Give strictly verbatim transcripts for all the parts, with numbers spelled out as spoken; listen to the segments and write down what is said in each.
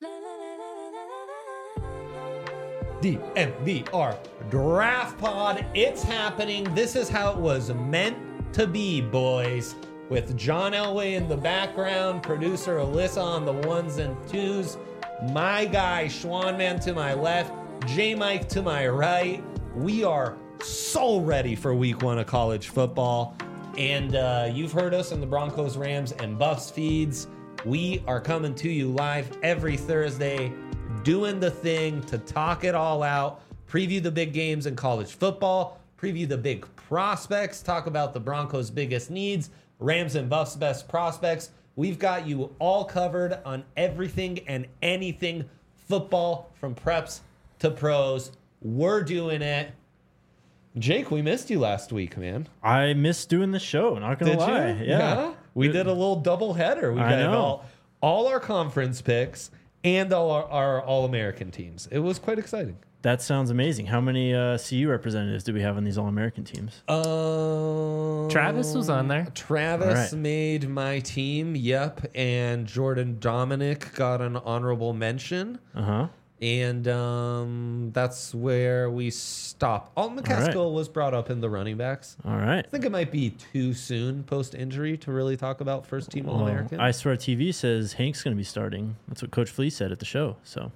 D N V R Draft Pod. It's happening. This is how it was meant to be, boys. With John Elway in the background, producer Alyssa on the ones and twos, my guy Schwanman to my left, J Mike to my right. We are so ready for week one of college football. And uh, you've heard us in the Broncos, Rams, and Buffs feeds. We are coming to you live every Thursday, doing the thing to talk it all out, preview the big games in college football, preview the big prospects, talk about the Broncos' biggest needs, Rams and Buffs' best prospects. We've got you all covered on everything and anything football, from preps to pros. We're doing it. Jake, we missed you last week, man. I missed doing the show, not gonna Did lie. you? Yeah. yeah. We did a little double header. We I got know. all, all our conference picks and all our, our All-American teams. It was quite exciting. That sounds amazing. How many uh, C U representatives do we have on these All-American teams? Um, Travis was on there. Travis All right. made my team, yep. And Jordan Dominic got an honorable mention. Uh-huh. And um, that's where we stop. Alton McCaskill right. was brought up in the running backs. All right. I think it might be too soon post-injury to really talk about first-team Well, All-American. I Swear T V says Hank's going to be starting. That's what Coach Flea said at the show. So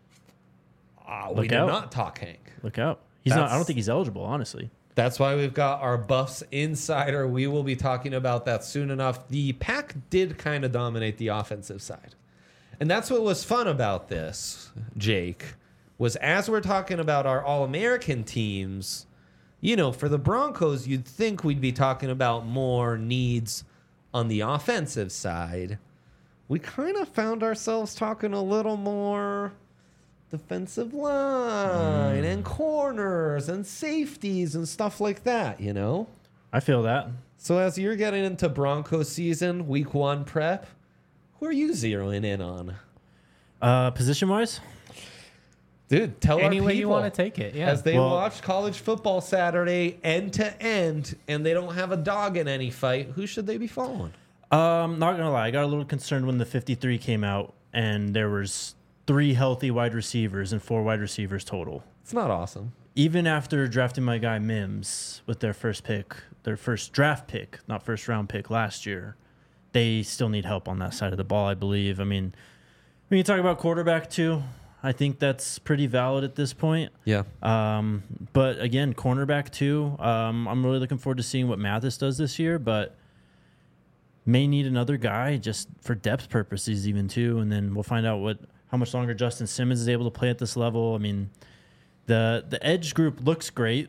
Uh, Look we did out. not talk Hank. look out. He's not. I That's- don't think he's eligible, honestly. That's why we've got our Buffs Insider. We will be talking about that soon enough. The Pack did kind of dominate the offensive side. And that's what was fun about this, Jake, was as we're talking about our All-American teams, you know, for the Broncos, you'd think we'd be talking about more needs on the offensive side. We kind of found ourselves talking a little more defensive line and corners and safeties and stuff like that, you know? I feel that. So as you're getting into Broncos season, week one prep, who are you zeroing in on? Uh, position-wise? Dude, tell Any our way you people, want to take it, yeah. as they Well- watch college football Saturday end to end and they don't have a dog in any fight, who should they be following? Um, not gonna lie, I got a little concerned when the fifty-three came out and there was three healthy wide receivers and four wide receivers total. It's not awesome. Even after drafting my guy Mims with their first pick, their first draft pick, not first round pick last year, they still need help on that side of the ball, I believe. I mean, when you talk about quarterback too, I think that's pretty valid at this point. Yeah. Um, but again, cornerback too. Um, I'm really looking forward to seeing what Mathis does this year, but may need another guy just for depth purposes even too. And then we'll find out what how much longer Justin Simmons is able to play at this level. I mean, the the edge group looks great,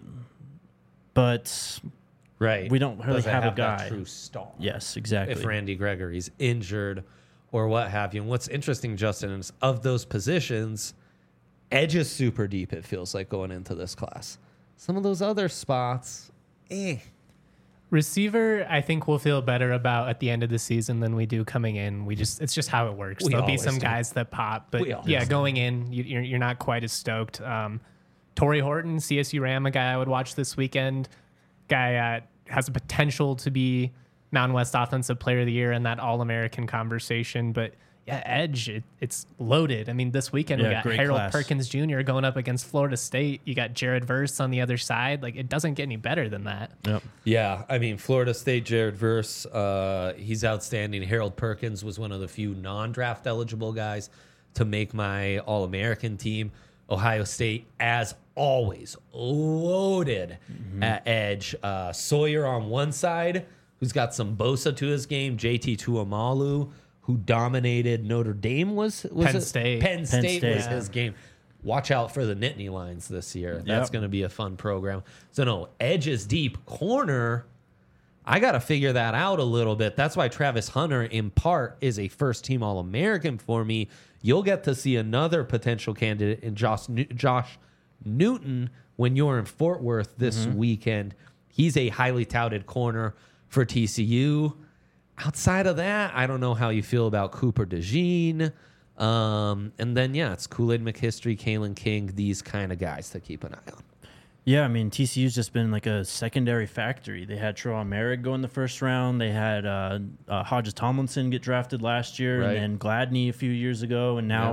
but Right. we don't really Does it have, have a guy. that true star. Yes, exactly. If Randy Gregory's injured or what have you. And what's interesting, Justin, is of those positions, edge is super deep, it feels like, going into this class. Some of those other spots, eh. Receiver, I think we'll feel better about at the end of the season than we do coming in. We just it's just how it works. We There'll be always some do. guys that pop, but We always yeah, do. going in, you, you're you're not quite as stoked. Um, Torrey Horton, C S U Ram, a guy I would watch this weekend. Guy uh, has a potential to be Mountain West Offensive Player of the Year in that All-American conversation, but yeah, edge, it, it's loaded. I mean, this weekend Yeah, we got great Harold class. Perkins Junior going up against Florida State. You got Jared Verse on the other side. Like, it doesn't get any better than that. Yep. Yeah, I mean, Florida State, Jared Verse, uh, he's outstanding. Harold Perkins was one of the few non-draft eligible guys to make my All-American team. Ohio State, as always, loaded at edge. Uh, Sawyer on one side, who's got some Bosa to his game. J T Tuamalu, who dominated Notre Dame, was, was Penn it? State. Penn State, State. was his game. Watch out for the Nittany Lions this year. That's Yep. going to be a fun program. So, no, edge is deep. Corner, I got to figure that out a little bit. That's why Travis Hunter, in part, is a first-team All-American for me. You'll get to see another potential candidate in Josh, New- Josh Newton when you're in Fort Worth this weekend. He's a highly touted corner for T C U. Outside of that, I don't know how you feel about Cooper DeJean. Um, and then, yeah, it's Kool-Aid McHistory, Kalen King, these kind of guys to keep an eye on. Yeah, I mean, T C U's just been like a secondary factory. They had Terrell Merrick go in the first round. They had uh, uh, Hodges Tomlinson get drafted last year, Right. and then Gladney a few years ago. And now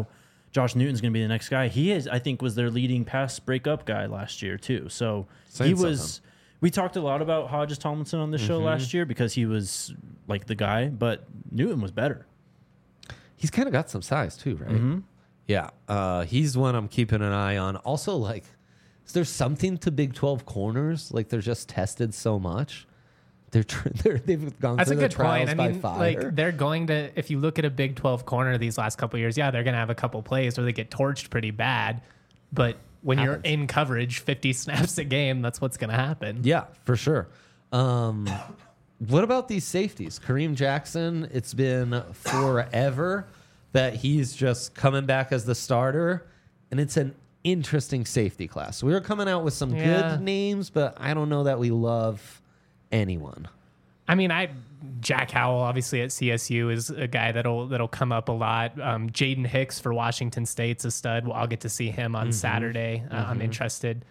Josh Newton's going to be the next guy. He is, I think, was their leading pass breakup guy last year too. So Saying he was. something. We talked a lot about Hodges Tomlinson on the show Mm-hmm. last year because he was like the guy, but Newton was better. He's kind of got some size too, right? Mm-hmm. Yeah, uh, he's one I'm keeping an eye on. Also, like, is there something to Big twelve corners? Like, they're just tested so much. They're, tr- they're they've gone That's a through the good point. trials I by mean, fire. like they're going to. If you look at a Big twelve corner these last couple of years, yeah, they're going to have a couple plays where they get torched pretty bad. But when Happens. you're in coverage, fifty snaps a game, that's what's going to happen. Yeah, for sure. Um, what about these safeties? Kareem Jackson, it's been forever that he's just coming back as the starter, and it's an interesting safety class. We were coming out with some Yeah. good names, but I don't know that we love anyone. I mean, I Jack Howell obviously at C S U is a guy that'll that'll come up a lot. Um, Jaden Hicks for Washington State's a stud. Well, I'll get to see him on Saturday. Uh, I'm interested.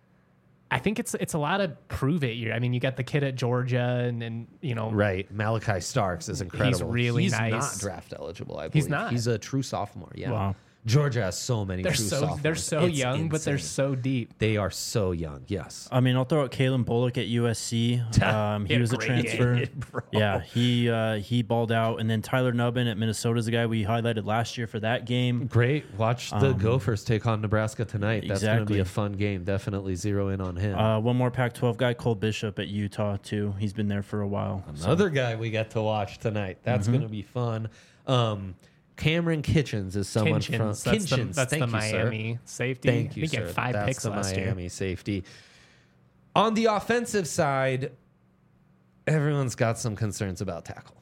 I think it's it's a lot of prove it year. I mean, you got the kid at Georgia, and and you know, Right. Malachi Starks is incredible. really He's nice. not draft eligible, I believe. He's not. He's a true sophomore. Yeah. Wow. Georgia has so many they're true so sophomores. they're so It's young, but they're insane. so deep. They are so young. Yes. I mean, I'll throw out Kalen Bullock at U S C. Um, He he had a was a great transfer. game, bro. Yeah, he uh, he balled out, and then Tyler Nubbin at Minnesota is the guy we highlighted last year for that game. Great. Watch the Gophers take on Nebraska tonight. That's going to be exactly. a fun game. Definitely zero in on him. Uh, one more Pac twelve guy, Cole Bishop at Utah too. He's been there for a while. So, Another guy we get to watch tonight. That's Mm-hmm. going to be fun. Um, Cameron Kitchens is someone Kinchins, from that's Kitchens. the, that's Thank the you, sir. Miami safety. Thank you, I think he sir. had five That's picks the last Miami year. safety. On the offensive side, everyone's got some concerns about tackle.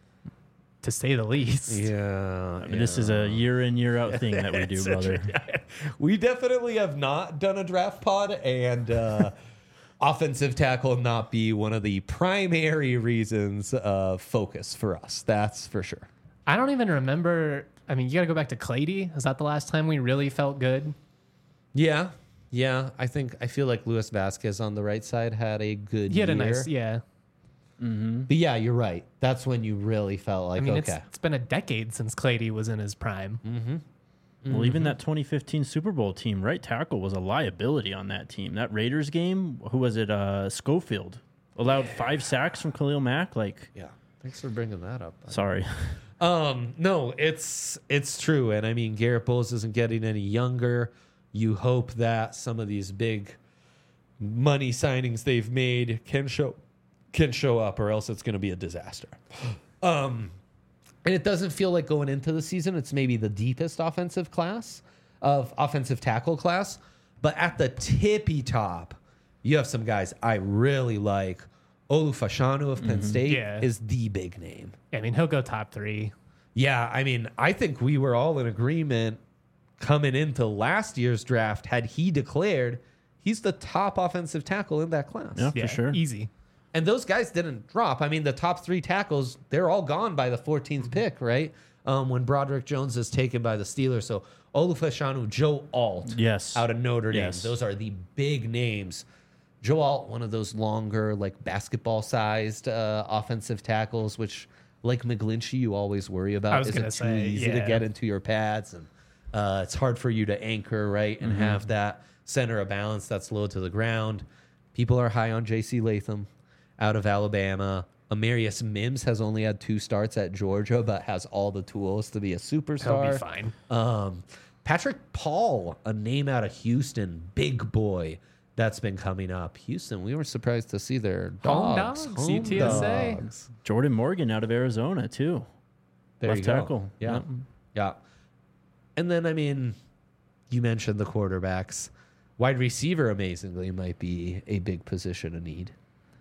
To say the least. Yeah, I mean, this is a year in year out thing that we do, brother. We definitely have not done a draft pod, and uh, offensive tackle not be one of the primary reasons of focus for us. That's for sure. I don't even remember. I mean, you got to go back to Clady. Is that the last time we really felt good? Yeah, yeah. I think I feel like Luis Vasquez on the right side had a good He had year. a nice, yeah. But yeah, you're right. That's when you really felt like I mean, okay. it's, it's been a decade since Clady was in his prime. Mm-hmm. Well, even that twenty fifteen Super Bowl team, right tackle was a liability on that team. That Raiders game, who was it? Uh, Schofield allowed five sacks from Khalil Mack. Like, Yeah. Thanks for bringing that up. sorry. Um, no, it's it's true, and I mean Garrett Bowles isn't getting any younger. You hope that some of these big money signings they've made can show can show up, or else it's going to be a disaster. Um, and it doesn't feel like going into the season, it's maybe the deepest offensive class of offensive tackle class, but at the tippy top, you have some guys I really like. Olufashanu of Penn State Yeah. is the big name. I mean, he'll go top three. Yeah, I mean, I think we were all in agreement coming into last year's draft. Had he declared, he's the top offensive tackle in that class. Yeah, Yeah, for sure. easy. And those guys didn't drop. I mean, the top three tackles, they're all gone by the fourteenth pick, right? Um, when Broderick Jones is taken by the Steelers. So Olufashanu, Joe Alt Yes. out of Notre Dame. Yes. Those are the big names. Joe Alt, one of those longer, like basketball-sized uh, offensive tackles, which, like McGlinchey, you always worry about. I was Is it gonna too say, easy to yeah. get into your pads? And uh, it's hard for you to anchor, right, and have that center of balance that's low to the ground. People are high on J C Latham out of Alabama. Amarius Mims has only had two starts at Georgia, but has all the tools to be a superstar. He'll be fine. Um, Patrick Paul, a name out of Houston, big boy that's been coming up. Houston, we were surprised to see their Home dogs. dogs, U T S A. dogs. Jordan Morgan out of Arizona too. There Left you go. tackle. Yeah. Yep. Yeah. And then, I mean, you mentioned the quarterbacks. Wide receiver, amazingly, might be a big position of need.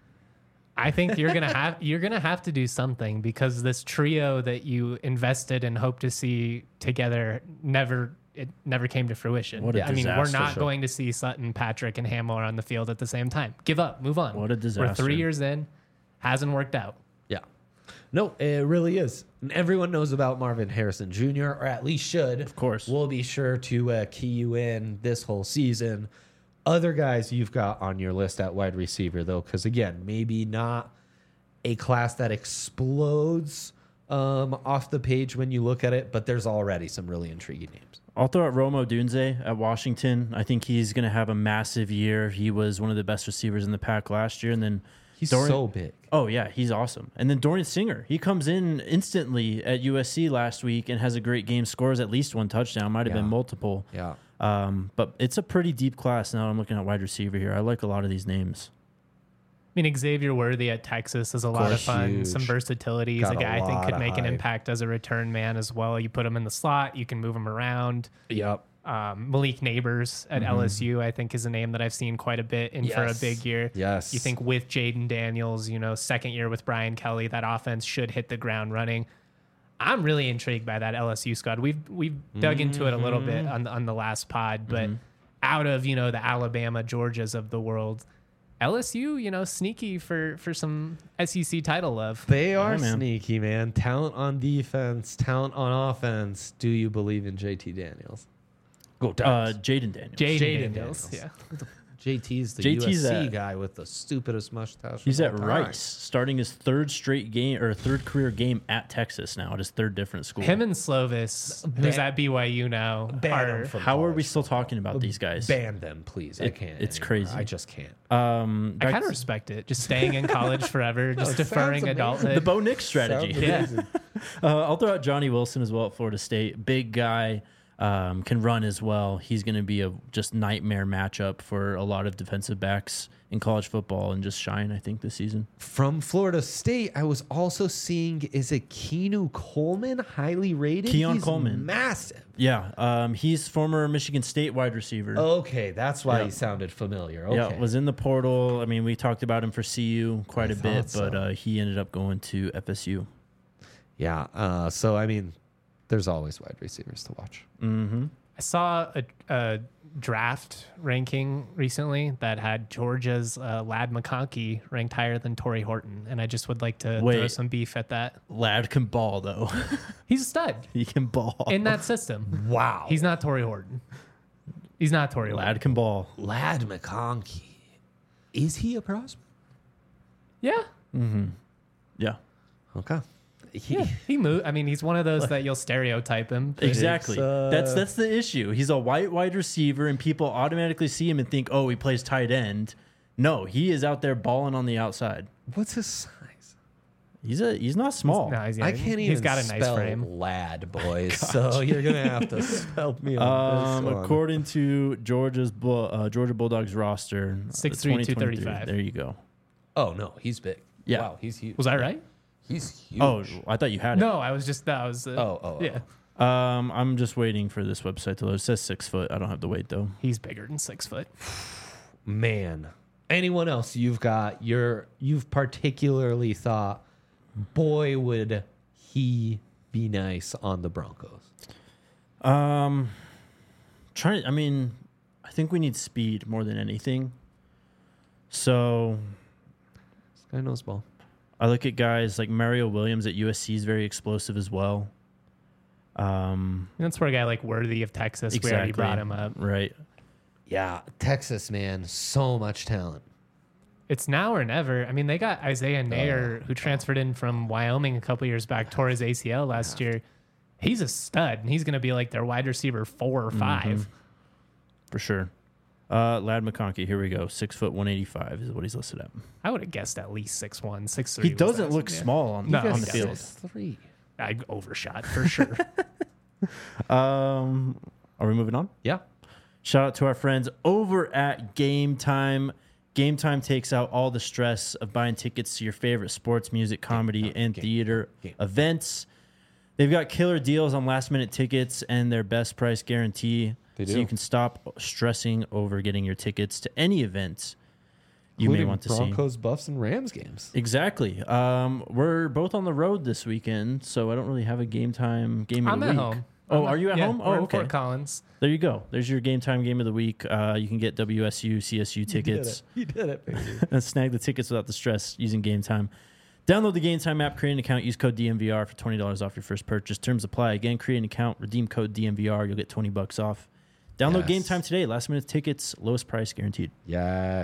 I think you're gonna have you're gonna have to do something because this trio that you invested and hoped to see together never it never came to fruition. What a I mean, we're disaster. not going to see Sutton, Patrick, and Hamler on the field at the same time. Give up, move on. What a We're disaster. three years in, hasn't worked out. Yeah. No, it really is. And everyone knows about Marvin Harrison Junior, or at least should. Of course. We'll be sure to uh, key you in this whole season. Other guys you've got on your list at wide receiver, though, because, again, maybe not a class that explodes um, off the page when you look at it, but there's already some really intriguing names. I'll throw out Romo Dunze at Washington. I think he's going to have a massive year. He was one of the best receivers in the pack last year. And then He's Dorian- so big. Oh, yeah, he's awesome. And then Dorian Singer, he comes in instantly at U S C last week and has a great game, scores at least one touchdown, might have Yeah. been multiple. Yeah. Um, but it's a pretty deep class now. I'm looking at wide receiver here. I like a lot of these names. I mean, Xavier Worthy at Texas is a lot of course, fun. huge. Some versatility. He's Got a a guy I think lot could of make an hype. impact as a return man as well. You put him in the slot, you can move him around. Yep. Um, Malik Neighbors at L S U, I think, is a name that I've seen quite a bit in for a Yes. big year. Yes. You think with Jaden Daniels, you know, second year with Brian Kelly, that offense should hit the ground running. I'm really intrigued by that L S U squad. We've we've dug into it a little bit on the, on the last pod, but out of, you know, the Alabama, Georgias of the world, L S U, you know, sneaky for for some S E C title love. They are man. sneaky, man. Talent on defense, talent on offense. Do you believe in J T Daniels? Go Uh, Ducks. Jaden Daniels. Jaden Jaden Daniels, Daniels. yeah. J T's the J T's U S C at- guy with the stupidest mustache. He's of at all time. Rice, starting his third straight game or third career game at Texas now at his third different school. Him and Slovis, who's Ban- at B Y U now, Ban are him from How are we college. still talking about these guys? Ban them, please. I It- can't. it's anymore. crazy. I just can't. Um, I back kind of to- respect it. Just staying in college forever, just it deferring sounds amazing. adulthood. the Bo Nix strategy. Sounds Yeah. amazing. Uh, I'll throw out Johnny Wilson as well at Florida State. Big guy, um, can run as well. He's going to be a just nightmare matchup for a lot of defensive backs in college football and just shine, I think, this season. From Florida State, I was also seeing, is it Keanu Coleman, highly rated? Keon He's Coleman. massive. Yeah, um, he's former Michigan State wide receiver. Okay, that's why Yeah. he sounded familiar. Okay. Yeah, was in the portal. I mean, we talked about him for C U quite I a bit, thought but so. uh, he ended up going to F S U. Yeah. Uh, so, I mean, there's always wide receivers to watch. Mm-hmm. I saw a, a draft ranking recently that had Georgia's uh, Lad McConkey ranked higher than Torrey Horton, and I just would like to throw Wait. some beef at that. Lad can ball, though. He's a stud he can ball. in that system. Wow. He's not Torrey Horton. He's not Torrey Horton. Lad can ball. Lad McConkey. Is he a prospect? Yeah. Yeah. Okay. He, Yeah, he moved. I mean, he's one of those that you'll stereotype him. Exactly. uh, that's that's the issue. He's a white wide receiver, and people automatically see him and think, "Oh, he plays tight end." No, he is out there balling on the outside. What's his size? He's a he's not small. No, he's, I can't even He's got a nice spell frame. lad, boys. so you're going to have to help me on Um, this one. according to Georgia's Bull, uh, Georgia Bulldogs roster, six three, two twenty twenty-three. thirty-five. There you go. Oh, no. He's big. Yeah. Wow, he's huge. Was I right? He's huge. Oh, I thought you had it. No, I was just that was. Uh, Oh, oh, oh. yeah. Um, I'm just waiting for this website to load. It says six foot. I don't have the weight though. He's bigger than six foot. Man. Anyone else you've got, you're, you've particularly thought, boy, would he be nice on the Broncos? Um, trying. I mean, I think we need speed more than anything. So This guy knows ball. I look at guys like Mario Williams at U S C is very explosive as well. Um, That's where a guy like Worthy of Texas, we already brought him up. Right. Yeah, Texas, man. So much talent. It's now or never. I mean, they got Isaiah Nair, who transferred in from Wyoming a couple years back, tore his A C L last year. He's a stud, and he's going to be like their wide receiver four or 5 For sure. Uh, Lad McConkey, here we go. Six foot one eighty five is what he's listed at. I would have guessed at least six one, six three. He doesn't look small on, No, on the he's field. Three. I overshot for sure. Um, are we moving on? Yeah. Shout out to our friends over at Game Time. Game Time takes out all the stress of buying tickets to your favorite sports, music, comedy, and theater events. They've got killer deals on last minute tickets and their best price guarantee. They So do. you can stop stressing over getting your tickets to any event you may Including want to see. Broncos, Buffs, and Rams games. Exactly. Um, we're both on the road this weekend, so I don't really have a Game Time game of I'm the at week. home. Oh, I'm are you at yeah, home? we're Oh, in okay. Fort Collins. There you go. There's your Game Time game of the week. Uh, you can get W S U, C S U tickets. You did it, baby. And snag the tickets without the stress using Game Time. Download the Game Time app, create an account, use code D M V R for twenty dollars off your first purchase. Terms apply. Again, create an account, redeem code D M V R. You'll get twenty bucks off. Download Yes. Game Time today. Last minute tickets, lowest price guaranteed. Yes.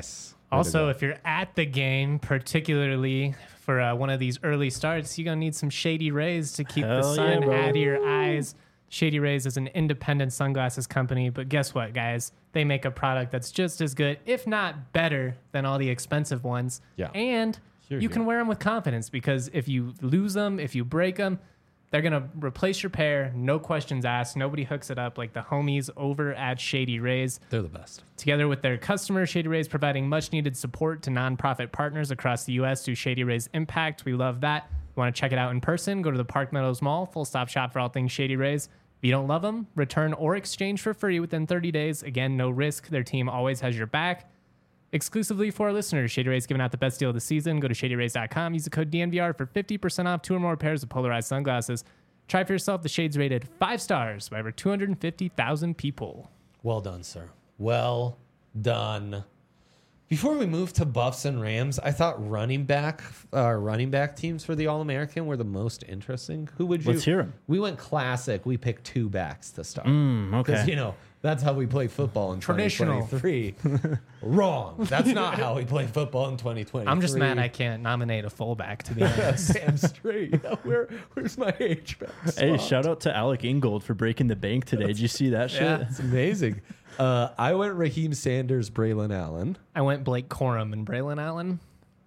Also, if you're at the game, particularly for uh, one of these early starts, you're going to need some Shady Rays to keep Hell the sun yeah, bro. out of your eyes. Shady Rays is an independent sunglasses company, but guess what, guys? They make a product that's just as good, if not better, than all the expensive ones. Yeah. And Here you you can go. wear them with confidence because if you lose them, if you break them, they're going to replace your pair, no questions asked. Nobody hooks it up like the homies over at Shady Rays. They're the best. Together with their customers, Shady Rays providing much needed support to nonprofit partners across the U S through Shady Rays Impact. We love that. You want to check it out in person? Go to the Park Meadows Mall, full stop shop for all things Shady Rays. If you don't love them, return or exchange for free within thirty days. Again, no risk. Their team always has your back. Exclusively for our listeners, Shady Rays giving out the best deal of the season. Go to shady rays dot com. Use the code D N V R for fifty percent off two or more pairs of polarized sunglasses. Try for yourself. The shades rated five stars by over two hundred fifty thousand people. Well done, sir. Well done. Before we move to Buffs and Rams, I thought running back, uh, running back teams for the All American were the most interesting. Who would you? Let's hear 'em. We went classic. We picked two backs to start. Mm, Because, okay. you know, that's how we play football in Traditional. twenty twenty-three. Wrong. That's not how we play football in twenty twenty-three. I'm just mad I can't nominate a fullback, to be honest. Damn straight. Where, where's my H-back Hey, spot? shout out to Alec Ingold for breaking the bank today. Did you see that shit? Yeah. It's amazing. Uh, I went Raheem Sanders, Braylon Allen. I went Blake Corum and Braylon Allen.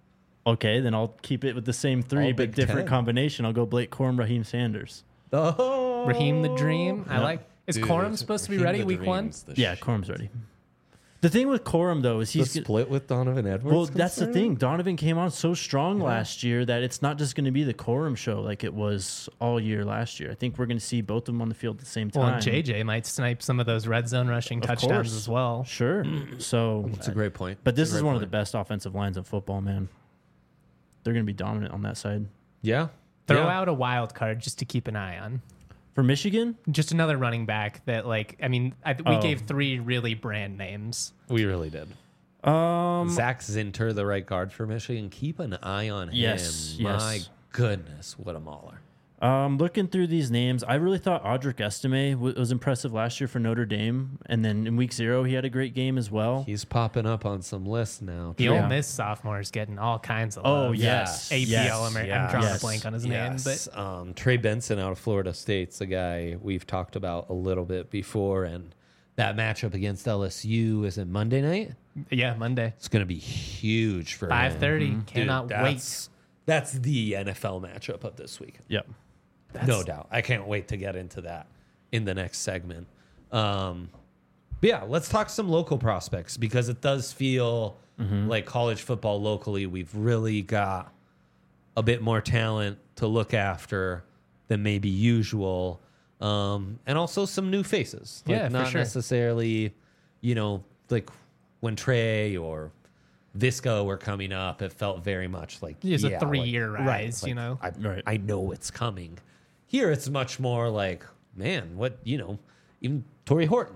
Okay, then I'll keep it with the same three, All but Big different Ten. combination. I'll go Blake Corum, Raheem Sanders. Oh, Raheem the Dream. I like. Is Dude, Corum supposed to be Raheem ready the week one? Dream's the Yeah, shit. Corum's ready. The thing with Corum though is The he's split with Donovan Edwards. well. That's the concerned? thing. Donovan came on so strong last year that it's not just going to be the Corum show like it was all year last year. I think we're going to see both of them on the field at the same time. Well, and J J might snipe some of those red zone rushing Of touchdowns course. as well. Sure. So, That's a great point. but this It's a is great one of the point. best offensive lines in football, man. They're going to be dominant on that side. Yeah. Throw Yeah. out a wild card just to keep an eye on. For Michigan, Just another running back that, like, I mean, I, th- we Oh. gave three really brand names. We really did. um, Zach Zinter, the right guard for Michigan. Keep an eye on Yes, him. yes. My goodness, what a mauler. Um, looking through these names, I really thought Audric Estime w- was impressive last year for Notre Dame, and then in week zero he had a great game as well. He's popping up on some lists now. The Yeah. Ole Miss sophomore is getting all kinds of Oh, love. yes. A P L, Yes. Amer- Yeah. I'm drawing Yes. a blank on his name, but Yes. um, Trey Benson out of Florida State's a guy we've talked about a little bit before, and that matchup against L S U is it Monday night? yeah, Monday, It's going to be huge for him. five thirty. Mm-hmm. Dude, Cannot wait. that's, That's the N F L matchup of this week. Yep. No doubt. I can't wait to get into that in the next segment. Um, but yeah, let's talk some local prospects because it does feel like college football locally, we've really got a bit more talent to look after than maybe usual. Um, and also some new faces. Like Yeah, for not sure. necessarily, you know, like when Trey or Visco were coming up, it felt very much like It's a yeah, three-year like- rise, like, you know? I, Right. I know it's coming. Here, it's much more like, man, what you know, even Torrey Horton,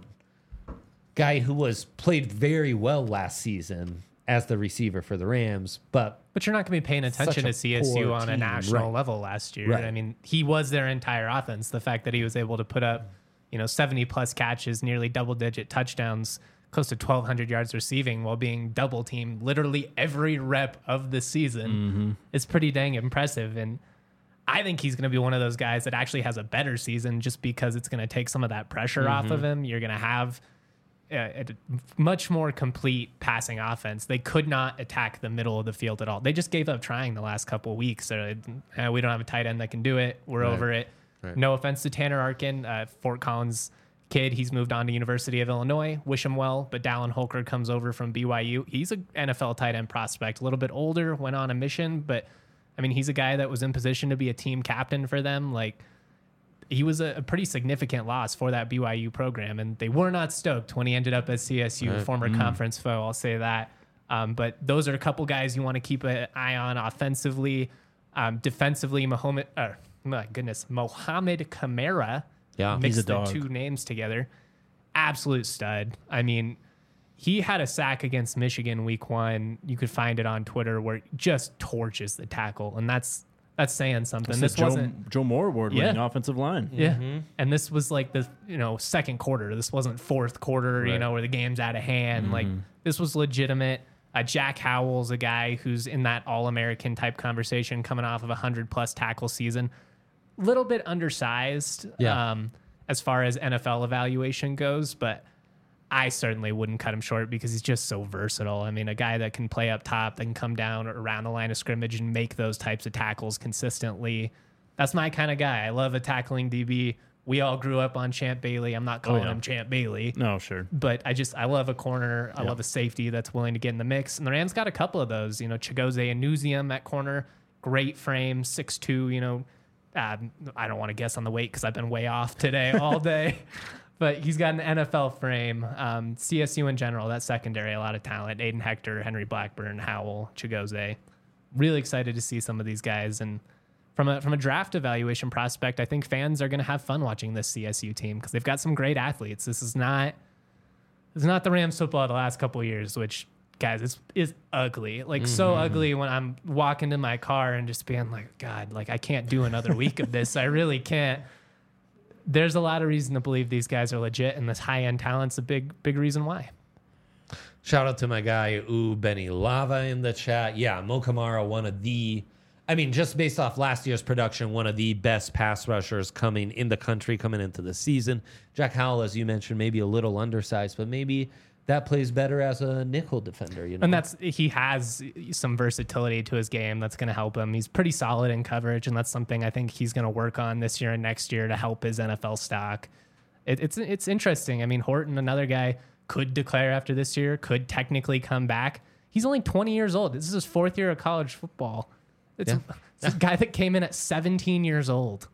guy who was played very well last season as the receiver for the Rams, but But you're not going to be paying attention Such a to C S U poor on a team, national right. level last year. Right. I mean, he was their entire offense. The fact that he was able to put up, you know, seventy plus catches, nearly double digit touchdowns, close to twelve hundred yards receiving while being double teamed literally every rep of the season is pretty dang impressive. And I think he's going to be one of those guys that actually has a better season just because it's going to take some of that pressure off of him. You're going to have a, a much more complete passing offense. They could not attack the middle of the field at all. They just gave up trying the last couple of weeks. So uh, we don't have a tight end that can do it. We're Right. over it. Right. No offense to Tanner Arkin, uh, Fort Collins kid. He's moved on to University of Illinois. Wish him well. But Dallin Holker comes over from B Y U. He's an N F L tight end prospect. A little bit older, went on a mission, but I mean, he's a guy that was in position to be a team captain for them. Like, he was a, a pretty significant loss for that B Y U program, and they were not stoked when he ended up at C S U, former conference foe. I'll say that. Um, but those are a couple guys you want to keep an eye on offensively. Um, defensively, Mohamed, uh, my goodness, Mohamed Kamara. Yeah. mix He's a the dog. two names together. Absolute stud. I mean, he had a sack against Michigan week one. You could find it on Twitter where he just torches the tackle, and that's that's saying something. That's This the Joe, wasn't. Joe Moore Award winning Yeah. offensive line. Yeah. And this was like the, you know, second quarter. This wasn't fourth quarter, you Right. know, where the game's out of hand. Like, this was legitimate. Uh, Jack Howell's a guy who's in that All-American type conversation, coming off of a hundred plus tackle season. Little bit undersized Yeah. um, as far as N F L evaluation goes, but I certainly wouldn't cut him short because he's just so versatile. I mean, a guy that can play up top, that can come down around the line of scrimmage and make those types of tackles consistently. That's my kind of guy. I love a tackling D B. We all grew up on Champ Bailey. I'm not calling yeah. him Champ Bailey. No, sure. But I just, I love a corner. I Yeah. love a safety that's willing to get in the mix. And the Rams got a couple of those. You know, Chigozie Anuzium at corner. Great frame, six two, you know. Uh, I don't want to guess on the weight because I've been way off today all day. But he's got an N F L frame. Um, C S U in general, that secondary, a lot of talent. Aiden Hector, Henry Blackburn, Howell, Chigozie. Really excited to see some of these guys. And from a from a draft evaluation prospect, I think fans are going to have fun watching this C S U team because they've got some great athletes. This is not this is not the Rams football of the last couple of years, which, guys, it's is ugly. Like mm-hmm. so ugly when I'm walking to my car and just being like, God, like I can't do another week of this. I really can't. There's a lot of reason to believe these guys are legit, and this high-end talent's a big, big reason why. Shout out to my guy, Ooh, Benny Lava in the chat. Yeah, Mo Kamara, one of the, I mean, just based off last year's production, one of the best pass rushers coming in the country, coming into the season. Jack Howell, as you mentioned, maybe a little undersized, but maybe that plays better as a nickel defender, you know? And that's, he has some versatility to his game that's going to help him. He's pretty solid in coverage, and that's something I think he's going to work on this year and next year to help his N F L stock. It, it's it's interesting. I mean, Horton, another guy, could declare after this year, could technically come back. He's only twenty years old. This is his fourth year of college football. It's, Yeah. a, it's a guy that came in at seventeen years old.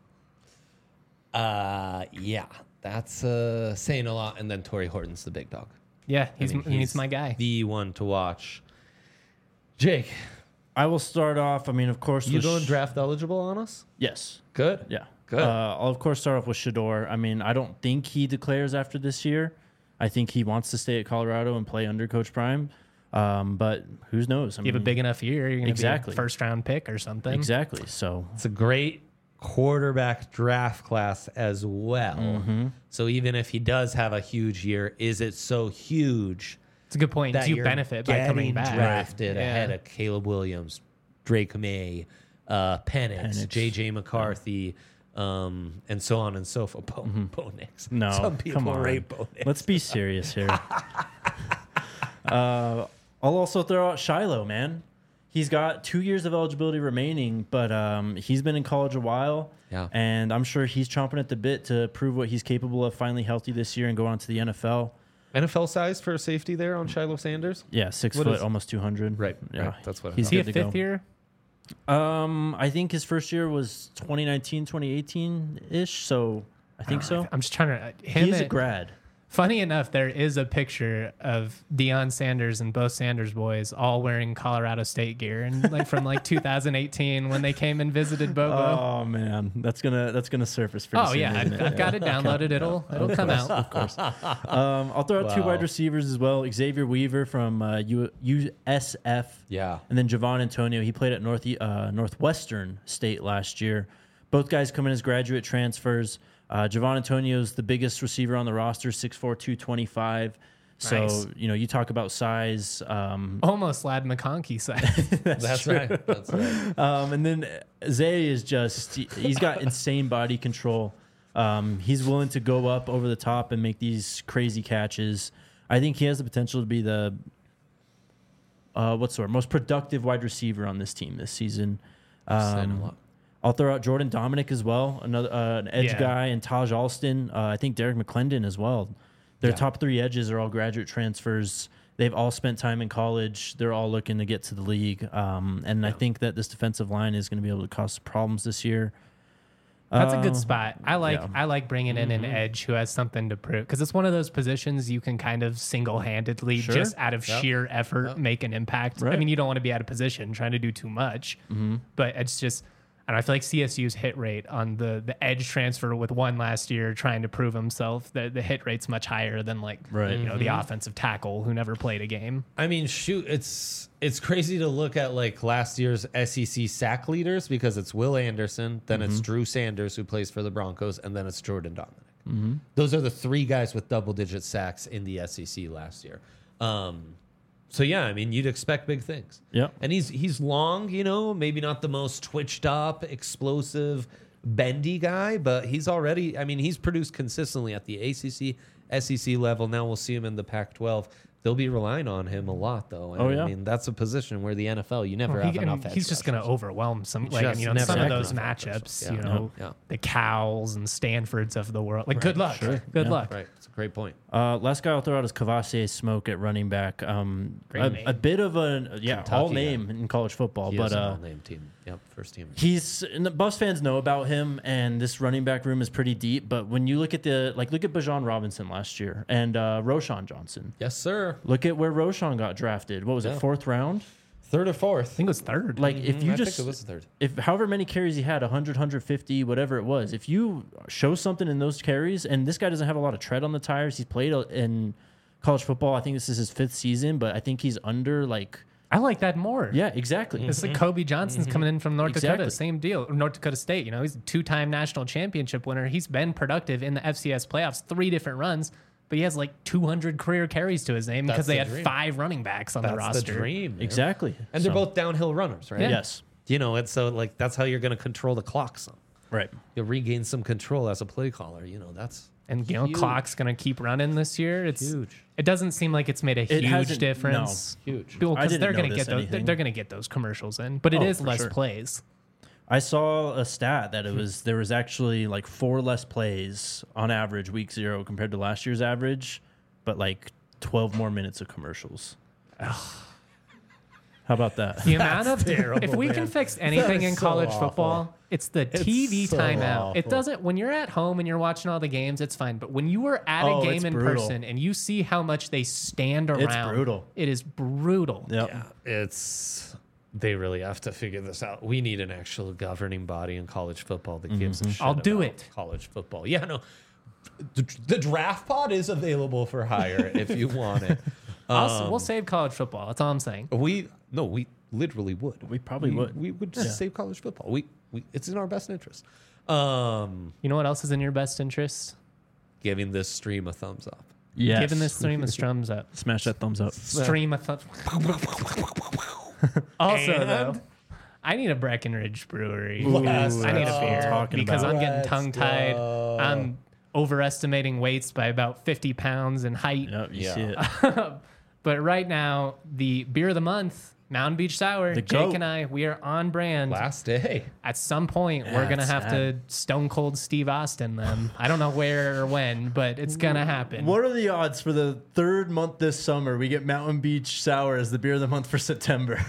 Uh, yeah, that's uh, saying a lot. And then Torrey Horton's the big dog. Yeah, he's, I mean, he's my guy. The one to watch. Jake, I will start off. I mean, of course, you with going Sh- draft eligible on us? Yes. Good. Yeah. Good. Uh, I'll of course start off with Shador. I mean, I don't think he declares after this year. I think he wants to stay at Colorado and play under Coach Prime. Um, but who knows? I You have a mean, big enough year, you're going to Exactly. be a first round pick or something. exactly. So It's a great quarterback draft class as well. Mm-hmm. So even if he does have a huge year, is it so huge It's a good point. that Do you you're benefit by coming getting back? drafted Yeah. ahead of Caleb Williams, Drake May, uh, Penix, Penix. J J McCarthy, um, and so on and so forth. Bo, Bo Nix. no, Some people come on. rate Bo Nix. Let's be serious here. uh, I'll also throw out Shiloh, man. He's got two years of eligibility remaining, but um, he's been in college a while. Yeah. And I'm sure he's chomping at the bit to prove what he's capable of, finally healthy this year and go on to the N F L. N F L size for safety there on Shiloh Sanders? Yeah, six What foot, is- almost two hundred. Right, Yeah, right. That's what I he's Is he a good to fifth go. year? Um, I think his first year was twenty nineteen, twenty eighteen ish. So I think so. I'm just trying to. Uh, him He's a and- grad. Funny enough, there is a picture of Deion Sanders and both Sanders boys all wearing Colorado State gear, and like from like two thousand eighteen when they came and visited Bobo. Oh man, that's gonna that's gonna surface pretty Oh, soon. yeah, isn't I've, it? I've got it downloaded. It'll it'll come out. Of course. Um, I'll throw out two Wow. wide receivers as well. Xavier Weaver from uh, U- USF. Yeah. And then Javon Antonio. He played at North uh, Northwestern State last year. Both guys come in as graduate transfers. Uh, Javon Antonio is the biggest receiver on the roster, six four, two twenty-five. So, Nice. you know, you talk about size. Um, Almost Lad McConkey size. That's right. That's right. Um, and then Zay is just, he, he's got insane body control. Um, he's willing to go up over the top and make these crazy catches. I think he has the potential to be the, uh, what's the word, most productive wide receiver on this team this season. Saying a Um, lot. I'll throw out Jordan Dominic as well, another uh, an edge Yeah. guy, and Taj Alston. Uh, I think Derek McClendon as well. Their Yeah. top three edges are all graduate transfers. They've all spent time in college. They're all looking to get to the league. Um, and I think that this defensive line is going to be able to cause problems this year. That's a Uh, good spot. I like yeah. I like bringing in an edge who has something to prove because it's one of those positions you can kind of single handedly Sure. just out of Yep. sheer effort Yep. make an impact. I Right. mean, you don't want to be out of position trying to do too much, Mm-hmm. but it's just. And I feel like C S U's hit rate on the, the edge transfer with one last year trying to prove himself, the, the hit rate's much higher than like Right. you know the offensive tackle who never played a game. I mean, shoot, it's it's crazy to look at like last year's S E C sack leaders because it's Will Anderson, then it's Drew Sanders who plays for the Broncos, and then it's Jordan Dominic. Those are the three guys with double digit sacks in the S E C last year. Um, So yeah, I mean, you'd expect big things. Yep. And he's he's long, you know, maybe not the most twitched up, explosive, bendy guy, but he's already, I mean, he's produced consistently at the A C C, S E C level. Now we'll see him in the Pac twelve. They'll be relying on him a lot, though. And Oh, yeah? I mean, that's a position where the N F L, you never Well, have he- enough and edge he's just going to rushers. overwhelm some, like Just you know, never some of have those enough edge matchups. rushers. You Yeah. know, Yeah. the Cowls and Stanfords of the world. Like, good luck. Good Yeah. luck. Right. It's a great point. Uh, last guy I'll throw out is Kavase Smoke at running back. Um, Great a, name. a bit of a yeah Kentucky all guy. name in college football, He but is an uh, all-name team. Yep, first team. he's and the Buffs fans know about him, and this running back room is pretty deep. But when you look at the like, look at Bajan Robinson last year and uh, Roshan Johnson. Yes, sir. Look at where Roshan got drafted. What was Yeah. it, fourth round? Third or I fourth. think it was third. Like if Mhm, you I just think it was third. if however many carries he had, one hundred, one fifty, whatever it was, if you show something in those carries, and this guy doesn't have a lot of tread on the tires, he's played in college football. I think this is his fifth season, but I think he's under like, I like that more. yeah, exactly. It's like Kobe Johnson's coming in from North Exactly. Dakota. Same deal. North Dakota State. You know, he's a two-time national championship winner. He's been productive in the F C S playoffs, three different runs, but he has like two hundred career carries to his name That's because they the had dream. five running backs on the That's roster. the dream. man. Exactly. And they're So, both downhill runners, right? Yeah. yes, You know, it's so like that's how you're going to control the clock some. right. You'll regain some control as a play caller. You know, that's And you know, Huge. clock's going to keep running this year. It's huge. It doesn't seem like it's made a It huge hasn't- difference. Huge. Well, I because didn't they're going to notice get those. They're, anything. they're going to get those commercials in, but it Oh, is for less sure. plays. I saw a stat that it was there was actually like four less plays on average week zero compared to last year's average, but like twelve more minutes of commercials. How about that? The amount of terrible, if we can man. fix anything is in so college awful. football, it's the T V so timeout. It awful. doesn't when you're at home and you're watching all the games, it's fine. But when you are at Oh, a it's game in brutal. person and you see how much they stand around, brutal. It is brutal. Yep. Yeah, it's they really have to figure this out. We need an actual governing body in college football that gives a shit I'll do about it. College football. Yeah, no. The, the draft pod is available for hire if you want it. Also, Um, we'll save college football. That's all I'm saying. we no, we literally would. We probably would. We would just save college football. We, we it's in our best interest. Um, You know what else is in your best interest? giving this stream a thumbs up. Yes. Giving this stream a strums up. Smash that thumbs up. Stream a th- Also, And- though, I need a Breckenridge brewery. Let's I need a go. beer Talking because about. I'm getting Let's tongue tied. go. I'm overestimating weights by about fifty pounds in height. Yep, you Yeah. see it. But right now, the beer of the month, Mountain Beach Sour, The Jake goat. and I, we are on brand. Last day. At some point, we're Yeah, going to it's have to Stone Cold Steve Austin them. I don't know where or when, but it's going to happen. What are the odds for the third month this summer we get Mountain Beach Sour as the beer of the month for September?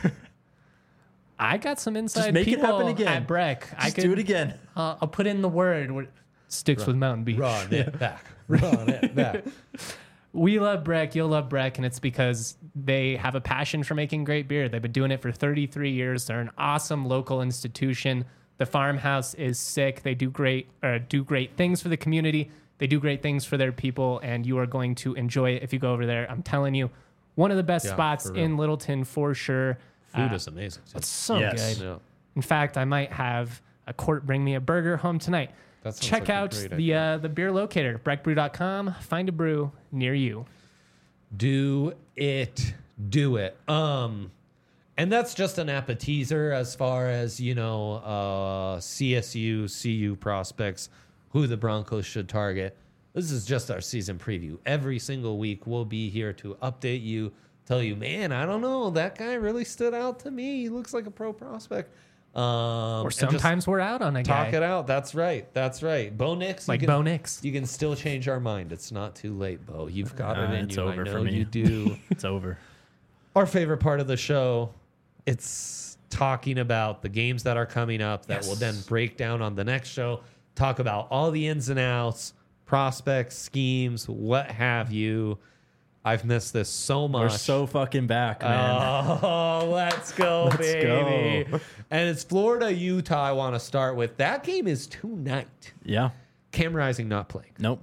I got some inside make it people happen again. at Breck. I Just could do it again. Uh, I'll put in the word. where- Sticks with Mountain Beach. Run it back. Run it back. We love Breck. You'll love Breck, and it's because they have a passion for making great beer. They've been doing it for thirty-three years. They're an awesome local institution. The farmhouse is sick. They do great, uh, do great things for the community. They do great things for their people, and you are going to enjoy it if you go over there. I'm telling you, one of the best Yeah, spots for real. in Littleton for sure. Food Uh, is amazing. too. It's so Yes. good. Yeah. In fact, I might have a court bring me a burger home tonight. That sounds Check like a out great the idea. uh, the beer locator, breck brew dot com. Find a brew near you. Do it. Do it. Um, and that's just an appetizer as far as, you know, uh, C S U, C U prospects, who the Broncos should target. This is just our season preview. Every single week, we'll be here to update you, tell you, man, I don't know, that guy really stood out to me. He looks like a pro prospect. Um, Or and just sometimes we're out on a guy. talk it out. That's right. That's right. Bo Nix. you Like can- Bo Nix. You can still change our mind. It's not too late, Bo. You've got it Uh, in it's you. over I know for me. you do. It's over. Our favorite part of the show, it's talking about the games that are coming up that Yes. will then break down on the next show, talk about all the ins and outs, prospects, schemes, what have you. I've missed this so much. We're so fucking back, man. Oh, let's go, Let's baby. go. And it's Florida, Utah I want to start with. That game is tonight. Yeah. Cam Rising not playing. Nope.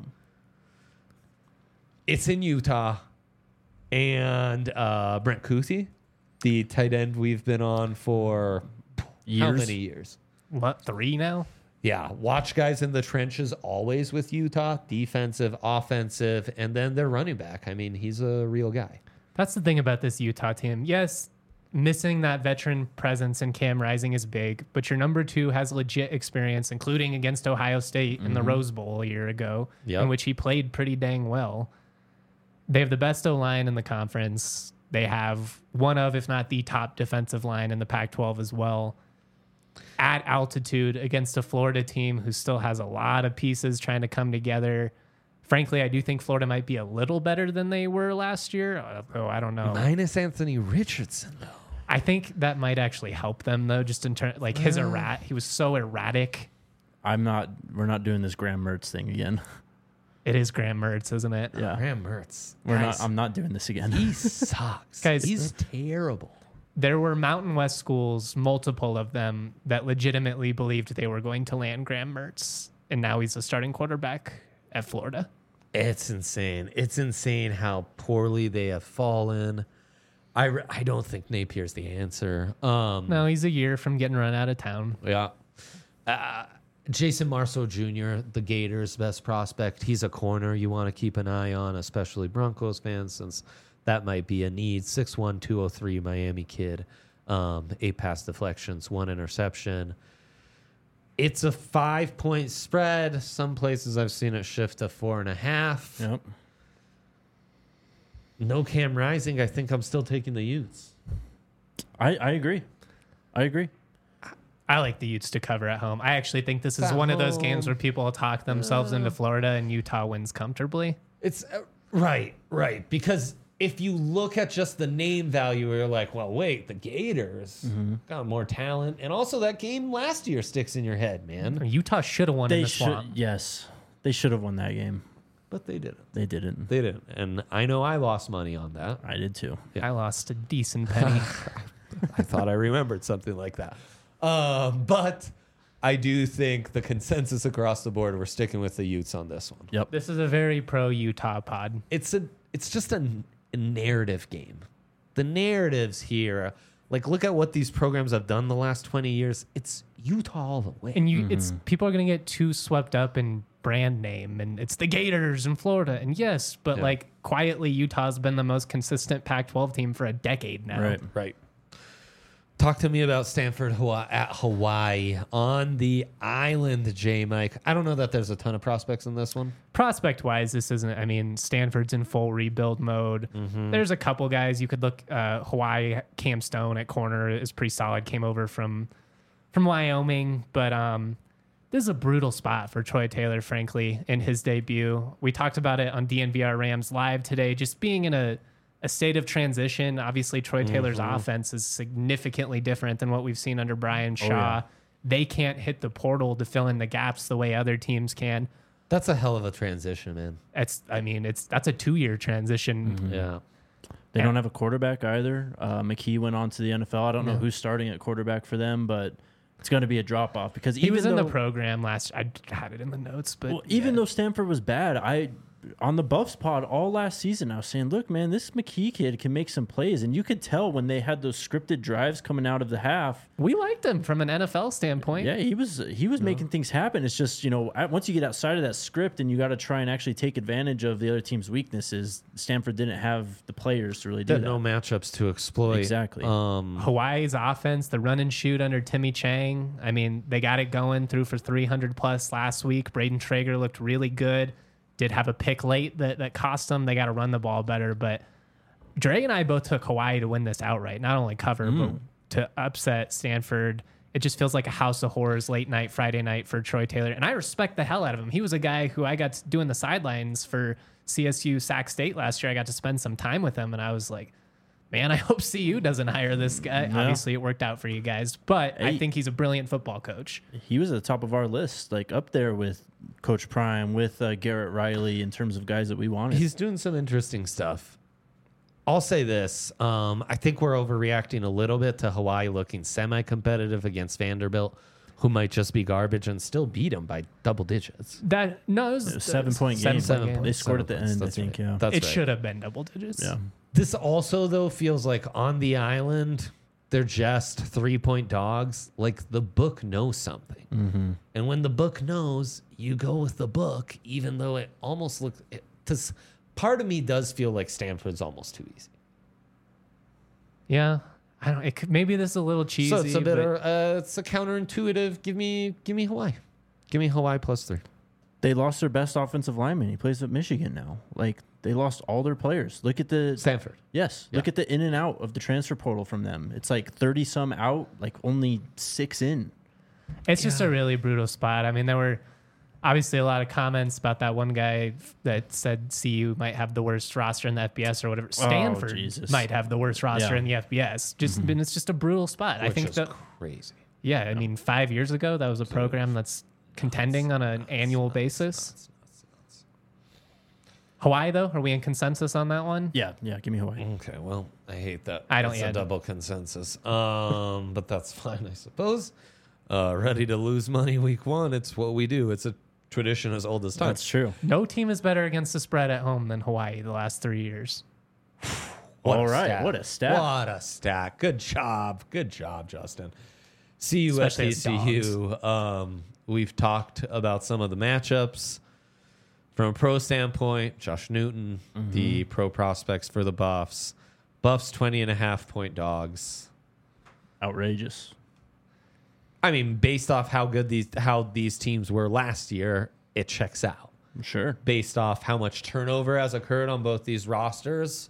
It's in Utah. And uh, Brent Kuthi, the tight end we've been on for how Years. many years? What, three now? Yeah, watch guys in the trenches always with Utah, defensive, offensive, and then their running back. I mean, he's a real guy. That's the thing about this Utah team. Yes, missing that veteran presence in Cam Rising is big, but your number two has legit experience, including against Ohio State in the Rose Bowl a year ago, Yep. in which he played pretty dang well. They have the best O-line in the conference. They have one of, if not the top defensive line in the Pac twelve as well. At altitude against a Florida team who still has a lot of pieces trying to come together. Frankly, I do think Florida might be a little better than they were last year. Oh, I don't know. Minus Anthony Richardson, though. I think that might actually help them though, just in terms like his errat. He was so erratic. I'm not. We're not doing this Graham Mertz thing again. It is Graham Mertz, isn't it? Yeah, Graham Mertz. we're Guys, not. I'm not doing this again. He sucks. Guys, He's terrible. There were Mountain West schools, multiple of them, that legitimately believed they were going to land Graham Mertz, and now he's a starting quarterback at Florida. It's insane. It's insane how poorly they have fallen. I, re- I don't think Napier's the answer. Um, No, he's a year from getting run out of town. Yeah. Uh, Jason Marceau Junior, the Gators' best prospect. He's a corner you want to keep an eye on, especially Broncos fans, since that might be a need. six one, two oh three Miami kid. Um, eight pass deflections, one interception. It's a five-point spread. Some places I've seen it shift to four and a half. Yep. No Cam Rising. I think I'm still taking the Utes. I, I agree. I agree. I like the Utes to cover at home. I actually think this is At one of those home. games where people talk themselves into Florida and Utah wins comfortably. It's uh, right, right. Because if you look at just the name value, you're like, well, wait, the Gators got more talent. And also that game last year sticks in your head, man. Utah should have won in They the should. swamp. Yes, they should have won that game. But they didn't. They didn't. They didn't. And I know I lost money on that. I did too. Yeah. I lost a decent penny. I thought I remembered something like that. Um, but I do think the consensus across the board, we're sticking with the Utes on this one. Yep. This is a very pro Utah pod. It's a it's just a, a narrative game. The narratives here, like look at what these programs have done the last twenty years. It's Utah all the way. And you, it's people are gonna get too swept up in brand name, and it's the Gators in Florida. And yes, but Yeah. like quietly, Utah's been the most consistent Pac twelve team for a decade now. Right. Right. Talk to me about Stanford Hawaii, at Hawaii on the island, J. Mike. I don't know that there's a ton of prospects in this one. Prospect wise, this isn't. I mean, Stanford's in full rebuild mode. There's a couple guys you could look. Uh, Hawaii, Cam Stone at corner is pretty solid. Came over from from Wyoming, but um, this is a brutal spot for Troy Taylor, frankly, in his debut. We talked about it on D N V R Rams Live today, just being in a, a state of transition. Obviously, Troy Taylor's offense is significantly different than what we've seen under Brian Shaw. yeah. They can't hit the portal to fill in the gaps the way other teams can. That's a hell of a transition, man. It's, I mean, it's that's a two-year transition. Yeah. They Yeah. don't have a quarterback either. Uh, McKee went on to the N F L. I don't know Yeah. who's starting at quarterback for them, but it's going to be a drop off because He even was in though, the program last. I had it in the notes, but well, even yeah. though Stanford was bad, I on the Buffs pod all last season, I was saying, look, man, this McKee kid can make some plays, and you could tell when they had those scripted drives coming out of the half. we liked him from an N F L standpoint. Yeah, he was he was making things happen. It's just, you know, at- once you get outside of that script and you got to try and actually take advantage of the other team's weaknesses, Stanford didn't have the players to really do Got that. no matchups to exploit. Exactly. Um, Hawaii's offense, the run and shoot under Timmy Chang. I mean, they got it going through for three hundred plus last week. Braden Traeger looked really good. Did have a pick late that, that cost them. They got to run the ball better. But Dre and I both took Hawaii to win this outright. Not only cover, but to upset Stanford. It just feels like a house of horrors late night, Friday night for Troy Taylor. And I respect the hell out of him. He was a guy who I got to doing the sidelines for C S U Sac State last year. I got to spend some time with him. And I was like, man, I hope C U doesn't hire this guy. Yeah. Obviously, it worked out for you guys. But I Hey. think he's a brilliant football coach. He was at the top of our list, like up there with Coach Prime, with uh, Garrett Riley in terms of guys that we wanted. he's doing some interesting stuff. I'll say this. Um, I think we're overreacting a little bit to Hawaii looking semi-competitive against Vanderbilt, who might just be garbage and still beat them by double digits. That no, it was, It was a seven-point seven game. Seven Seven point. They scored seven at the points. end, I That's think, right. yeah. That's It right. should have been double digits. Yeah. This also, though, feels like on the island, they're just three point dogs. Like the book knows something. Mm-hmm. And when the book knows, you go with the book, even though it almost looks. It, to, s- part of me does feel like Stanford's almost too easy. Yeah. I don't. It could, maybe this is a little cheesy. So it's a bit, but uh, it's a counterintuitive. Give me, give me Hawaii. Give me Hawaii plus three. They lost their best offensive lineman. He plays at Michigan now. Like, they lost all their players. Look at the Stanford. Yes. Look Yeah. at the in and out of the transfer portal from them. It's like thirty some out, like only six in. it's just a really brutal spot. I mean, there were obviously a lot of comments about that one guy that said C U might have the worst roster in the F B S or whatever. Stanford Jesus. might have the worst roster Yeah. in the F B S. Just and it's just a brutal spot. I Which think is that crazy. yeah, I mean, five years ago that was a program that's contending on an annual basis. Hawaii, though, are we in consensus on that one? Yeah, yeah. Give me Hawaii. Okay, well, I hate that. I don't It's yet. a double consensus. Um, but that's fine, I suppose. Uh, ready to lose money week one. It's what we do. It's a tradition as old as time. That's true. No team is better against the spread at home than Hawaii the last three years. What All a right, stat. what a stat. What a stat. Good job. Good job, Justin. C U S Especially T as C U. Um, we've talked about some of the matchups. From a pro standpoint, Josh Newton, Mm-hmm. the pro prospects for the Buffs. Buffs twenty and a half point dogs. Outrageous. I mean, based off how good these how these teams were last year, it checks out. Sure. Based off how much turnover has occurred on both these rosters.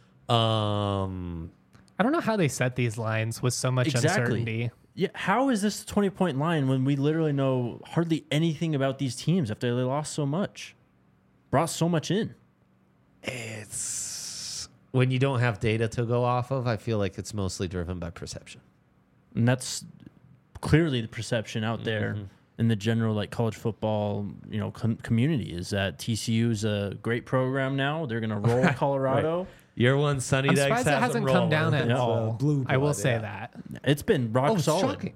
Um I don't know how they set these lines with so much Exactly. uncertainty. Yeah. How is this a twenty point line when we literally know hardly anything about these teams after they lost so much? Brought so much in. It's when you don't have data to go off of, I feel like it's mostly driven by perception. And that's clearly the perception out there in the general like college football, you know, com- community is that T C U is a great program now. They're going to roll Colorado. Year one, Sunny I'm Dex surprised it hasn't come down at all. I will say that. It's been rock Oh, it's solid. shocking.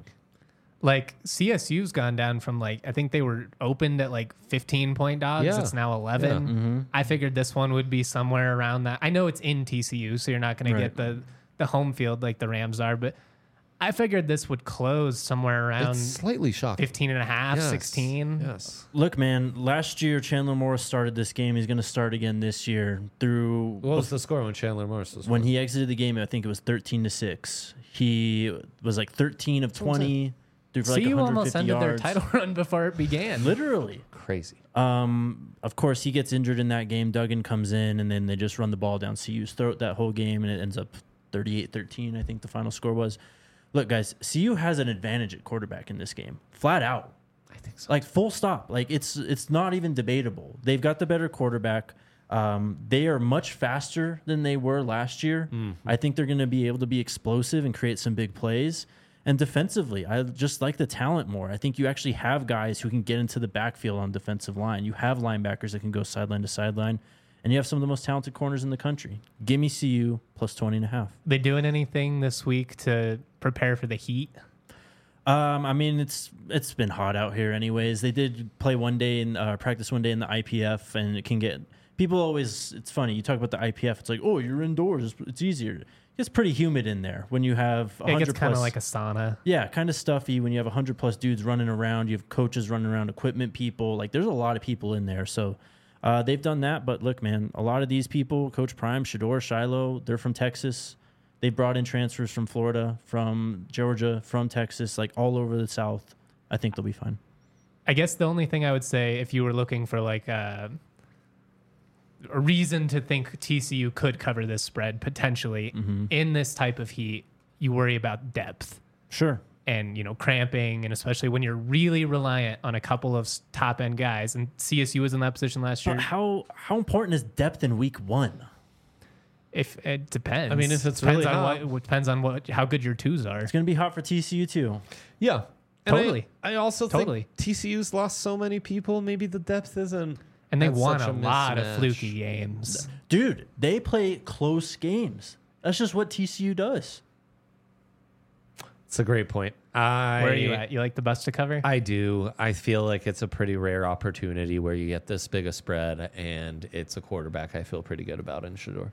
Like C S U's gone down from like I think they were opened at like fifteen point dogs. Yeah. It's now eleven. Yeah. Mm-hmm. I figured this one would be somewhere around that. I know it's in T C U, so you're not going Right. to get the the home field like the Rams are, but I figured this would close somewhere around It's slightly shocking. fifteen and a half, Yes. sixteen. Yes. Look, man, last year Chandler Morris started this game. He's going to start again this year through What was the score when Chandler Morris was when he exited the game. I think it was thirteen to six. He was like thirteen of twenty. Threw for like C U almost one hundred fifty ended their yards. title run before it began. Literally. crazy? Um, of course, he gets injured in that game. Duggan comes in, and then they just run the ball down C U's throat that whole game, and it ends up thirty-eight thirteen, I think the final score was. Look, guys, C U has an advantage at quarterback in this game, flat out. I think so. Like, full stop. Like, it's it's not even debatable. They've got the better quarterback. Um, they are much faster than they were last year. I think they're going to be able to be explosive and create some big plays. And defensively, I just like the talent more. I think you actually have guys who can get into the backfield on defensive line. You have linebackers that can go sideline to sideline. And you have some of the most talented corners in the country. Give me C U plus twenty and a half. They doing anything this week to prepare for the heat? Um, I mean, it's it's been hot out here anyways. They did play one day in uh, practice one day in the I P F, and it can get people always. It's funny you talk about the I P F. It's like, oh, you're indoors. It's, it's easier. It's pretty humid in there when you have It one hundred gets kind of plus- like a sauna. yeah, kind of stuffy when you have one hundred plus dudes running around. You have coaches running around, equipment people. Like, there's a lot of people in there. So uh, they've done that. But look, man, a lot of these people, Coach Prime, Shador, Shiloh, they're from Texas. They brought in transfers from Florida, from Georgia, from Texas, like all over the South. I think they'll be fine. I guess the only thing I would say, if you were looking for like a, a reason to think T C U could cover this spread potentially in this type of heat, you worry about depth Sure. and you know cramping, and especially when you're really reliant on a couple of top end guys. And C S U was in that position last year. But how how important is depth in week one? If it depends, I mean, if it's depends really on hot. what depends on what how good your twos are. It's going to be hot for T C U too. Yeah. And Totally. I, I also Totally. think T C U's lost so many people. Maybe the depth isn't. And they That's won such a a lot of mismatch. fluky games. Dude, they play close games. That's just what T C U does. It's a great point. I, Where are you at? You like the bus to cover? I do. I feel like it's a pretty rare opportunity where you get this big a spread, and it's a quarterback I feel pretty good about in Shador.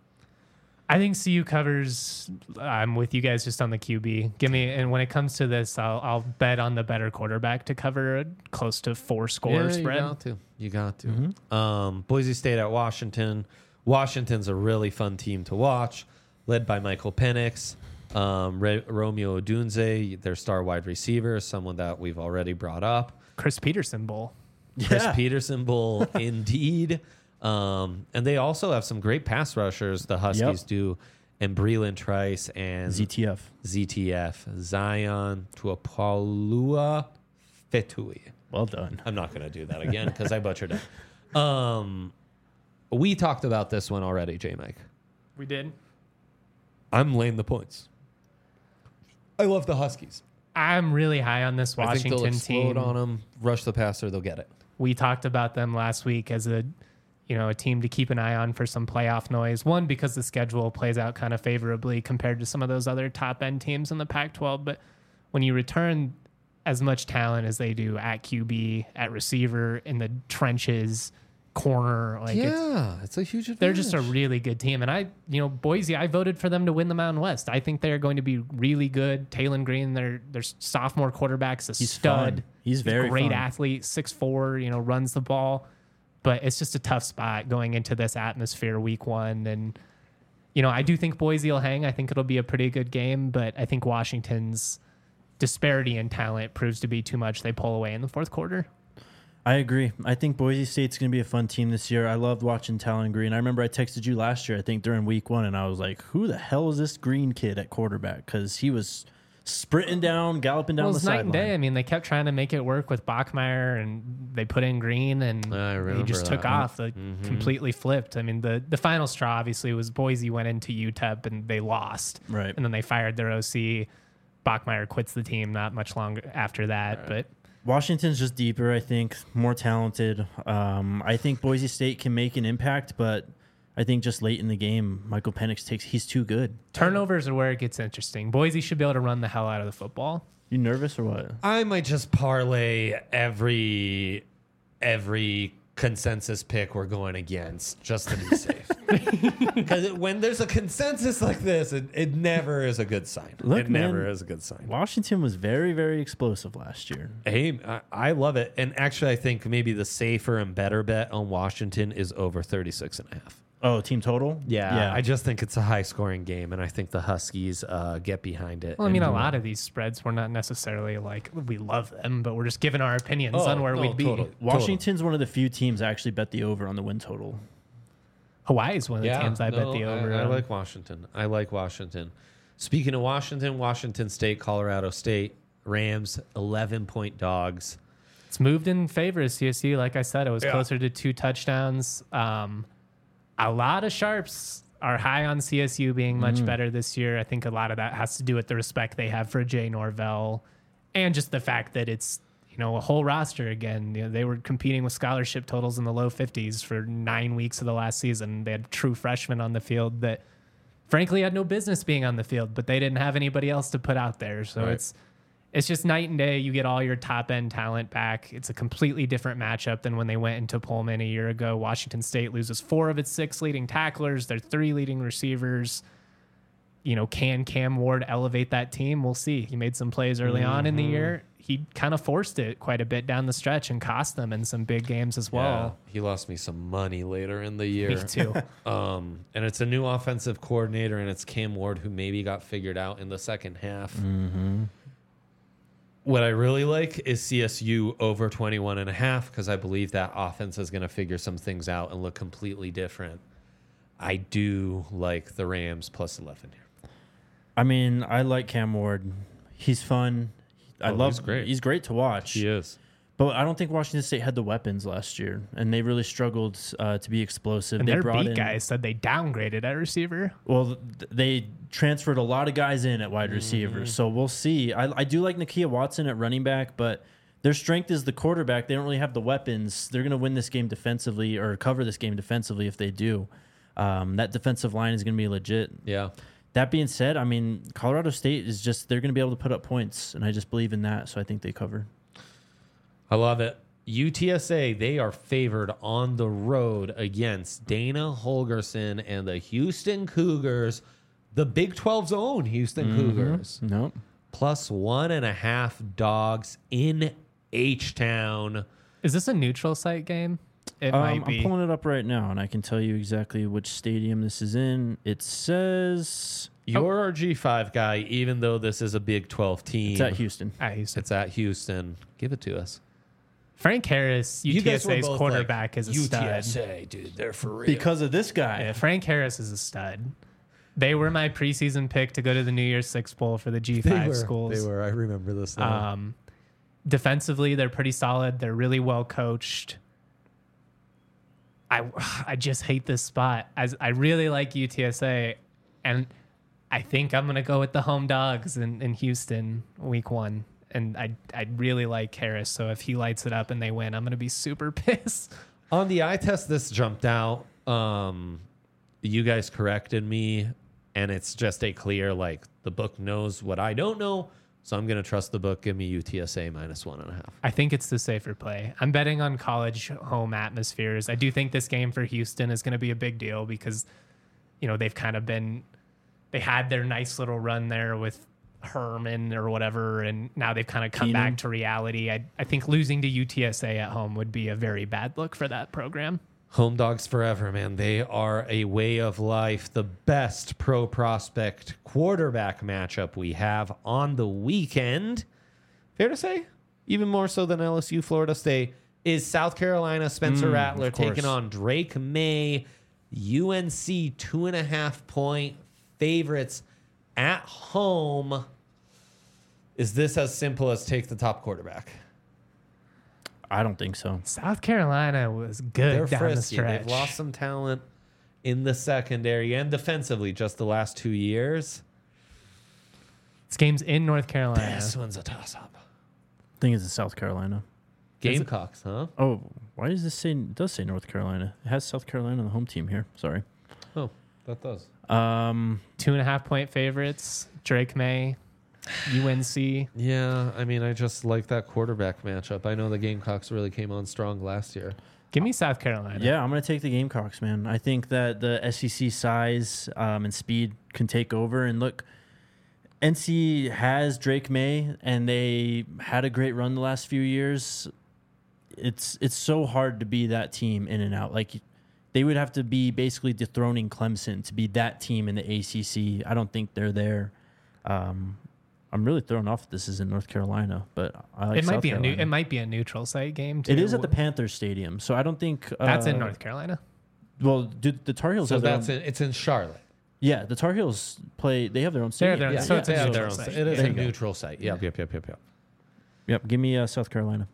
I think C U covers. I'm with you guys just on the Q B. Give me, and when it comes to this, I'll, I'll bet on the better quarterback to cover a close to four score yeah, spread. You got to. You got to. Um, Boise State at Washington. Washington's a really fun team to watch. led by Michael Penix. Um, Re- Romeo Odunze, their star wide receiver, someone that we've already brought up. Chris Peterson Bowl. Chris Yeah. Peterson Bowl, indeed. Um, and they also have some great pass rushers, the Huskies Yep. do, and Breland Trice and Z T F. Z T F, Zion Tuapalua Fetui. Well done. I'm not going to do that again because I butchered it. Um, we talked about this one already, J Mike. We did. I'm laying the points. I love the Huskies. I'm really high on this I think they'll Washington explode team. on them, rush the passer, they'll get it. We talked about them last week as a, you know, a team to keep an eye on for some playoff noise. One, because the schedule plays out kind of favorably compared to some of those other top end teams in the Pac twelve. But when you return as much talent as they do at Q B, at receiver, in the trenches, corner, like it's, Yeah, it's, a huge advantage. they're just a really good team. And I, you know, Boise, I voted for them to win the Mountain West. I think they're going to be really good. Talon Green, their their sophomore quarterback's a He's stud. fun. He's very a great fun. athlete, six foot four, you know, runs the ball. But it's just a tough spot going into this atmosphere week one. And, you know, I do think Boise will hang. I think it'll be a pretty good game. But I think Washington's disparity in talent proves to be too much. They pull away in the fourth quarter. I agree. I think Boise State's going to be a fun team this year. I loved watching Talon Green. I remember I texted you last year, I think during week one, and I was like, who the hell is this Green kid at quarterback? Because he was sprinting down, galloping down Well, the it's night and sideline. day. I mean, they kept trying to make it work with Bachmeyer, and they put in Green, and I he remember just took that. off. Like, completely flipped. I mean, the, the final straw, obviously, was Boise went into U T E P, and they lost. Right. And then they fired their O C. Bachmeyer quits the team not much longer after that. But Washington's just deeper, I think, more talented. Um, I think Boise State can make an impact, but I think just late in the game, Michael Penix takes, he's too good. turnovers are where it gets interesting. Boise should be able to run the hell out of the football. You nervous or what? I might just parlay every every consensus pick we're going against just to be safe. Because when there's a consensus like this, it, it never is a good sign. Look, it never man, is a good sign. Washington was very, very explosive last year. Hey, I, I love it. And actually, I think maybe the safer and better bet on Washington is over thirty-six and a half. Oh, team total? Yeah, I just think it's a high scoring game, and I think the Huskies uh, get behind it. Well, I mean, and a do lot it. of these spreads, we're not necessarily like, we love them, but we're just giving our opinions Oh, on where no, we'd be. totally. Washington's one of the few teams I actually bet the over on the win total. Hawaii is one of the teams I bet no, the over. I, I on. like Washington. I like Washington. Speaking of Washington, Washington State, Colorado State, Rams, eleven point dogs. It's moved in favor of C S U. Like I said, it was Yeah. closer to two touchdowns. Um, a lot of sharps are high on C S U being much better this year. I think a lot of that has to do with the respect they have for Jay Norvell and just the fact that it's, you know, a whole roster again. You know, they were competing with scholarship totals in the low fifties for nine weeks of the last season. They had true freshmen on the field that frankly had no business being on the field, but they didn't have anybody else to put out there. So Right. it's it's just night and day. You get all your top end talent back. It's a completely different matchup than when they went into Pullman a year ago. Washington State loses four of its six leading tacklers, their three leading receivers. You know, can Cam Ward elevate that team? We'll see. He made some plays early Mm-hmm. on in the year. He kind of forced it quite a bit down the stretch and cost them in some big games as well. Yeah, he lost me some money later in the year. Me too. Um, and it's a new offensive coordinator, and it's Cam Ward, who maybe got figured out in the second half. Mm-hmm. What I really like is C S U over twenty-one and a half because I believe that offense is going to figure some things out and look completely different. I do like the Rams plus eleven here. I mean, I like Cam Ward. He's fun. I Oh, love. he's great. He's great to watch. is. But I don't think Washington State had the weapons last year, and they really struggled uh, to be explosive. And they their brought beat in, guys said they downgraded at receiver. Well, th- they transferred a lot of guys in at wide receivers, so we'll see. I, I do like Nakia Watson at running back, but their strength is the quarterback. They don't really have the weapons. They're going to win this game defensively or cover this game defensively if they do. Um, that defensive line is going to be legit. Yeah. That being said, I mean, Colorado State is just, they're going to be able to put up points, and I just believe in that, so I think they cover. I love it. U T S A, they are favored on the road against Dana Holgerson and the Houston Cougars, the Big twelve's own Houston Cougars. Nope. Plus one and a half dogs in H-Town. Is this a neutral site game? It Um, might be. I'm pulling it up right now, and I can tell you exactly which stadium this is in. It says You're our G five guy, even though this is a Big twelve team. it's at Houston. at Houston. It's at Houston. Give it to us. Frank Harris, You guys were UTSA's both quarterback, like, is a U T stud. S A, dude, they're for real. Because of this guy. Yeah, Frank Harris is a stud. They were my preseason pick to go to the New Year's Six Bowl for the G five They were. schools. They were. I remember this now. Um, defensively, they're pretty solid. They're really well coached. I I just hate this spot. As I really like U T S A, and I think I'm gonna go with the home dogs in, in Houston week one. And I I really like Harris. So if he lights it up and they win, I'm gonna be super pissed. On the eye test, this jumped out. Um, you guys corrected me, and it's just a clear, like, the book knows what I don't know, so I'm going to trust the book. Give me U T S A minus one and a half. I think it's the safer play. I'm betting on college home atmospheres. I do think this game for Houston is going to be a big deal because, you know, they've kind of been, they had their nice little run there with Herman or whatever, and now they've kind of come Keenan. back to reality. I, I think losing to U T S A at home would be a very bad look for that program. Home dogs forever, man. They are a way of life. The best pro prospect quarterback matchup we have on the weekend, fair to say, even more so than L S U Florida State, is South Carolina Spencer Mm, Rattler of course. taking on Drake May. U N C two and a half point favorites at home. Is this as simple as take the top quarterback? I don't think so. South Carolina was good They're down frisky. the stretch. They've lost some talent in the secondary and defensively just the last two years. This game's in North Carolina. This one's a toss-up. I think it's in South Carolina. Gamecocks, huh? Oh, why does this say? It does say North Carolina. It has South Carolina on the home team here. Sorry. Oh, that does. Um, Two and a half point favorites. Drake May, U N C. Yeah, I mean, I just like that quarterback matchup. I know the Gamecocks really came on strong last year. Give me South Carolina. yeah, I'm going to take the Gamecocks, man. I think that the S E C size um, and speed can take over. And look, N C has Drake May, and they had a great run the last few years. It's it's so hard to be that team in and out. Like, they would have to be basically dethroning Clemson to be that team in the A C C. I don't think they're there. Um, I'm really thrown off. This is in North Carolina, but I like It might South be a new, Carolina. it might be a neutral site game too. It is at the Panthers Stadium, so I don't think uh, That's in North Carolina. Well, do the Tar Heels So have their that's own, in, it's in Charlotte. Yeah, the Tar Heels play. They have their own They're stadium. their- yeah, so yeah, it's a yeah. Yeah, neutral their own site. site. It is There a you go. neutral site. Yep, yep, yep, yep, yep. Yep. Give me uh, South Carolina.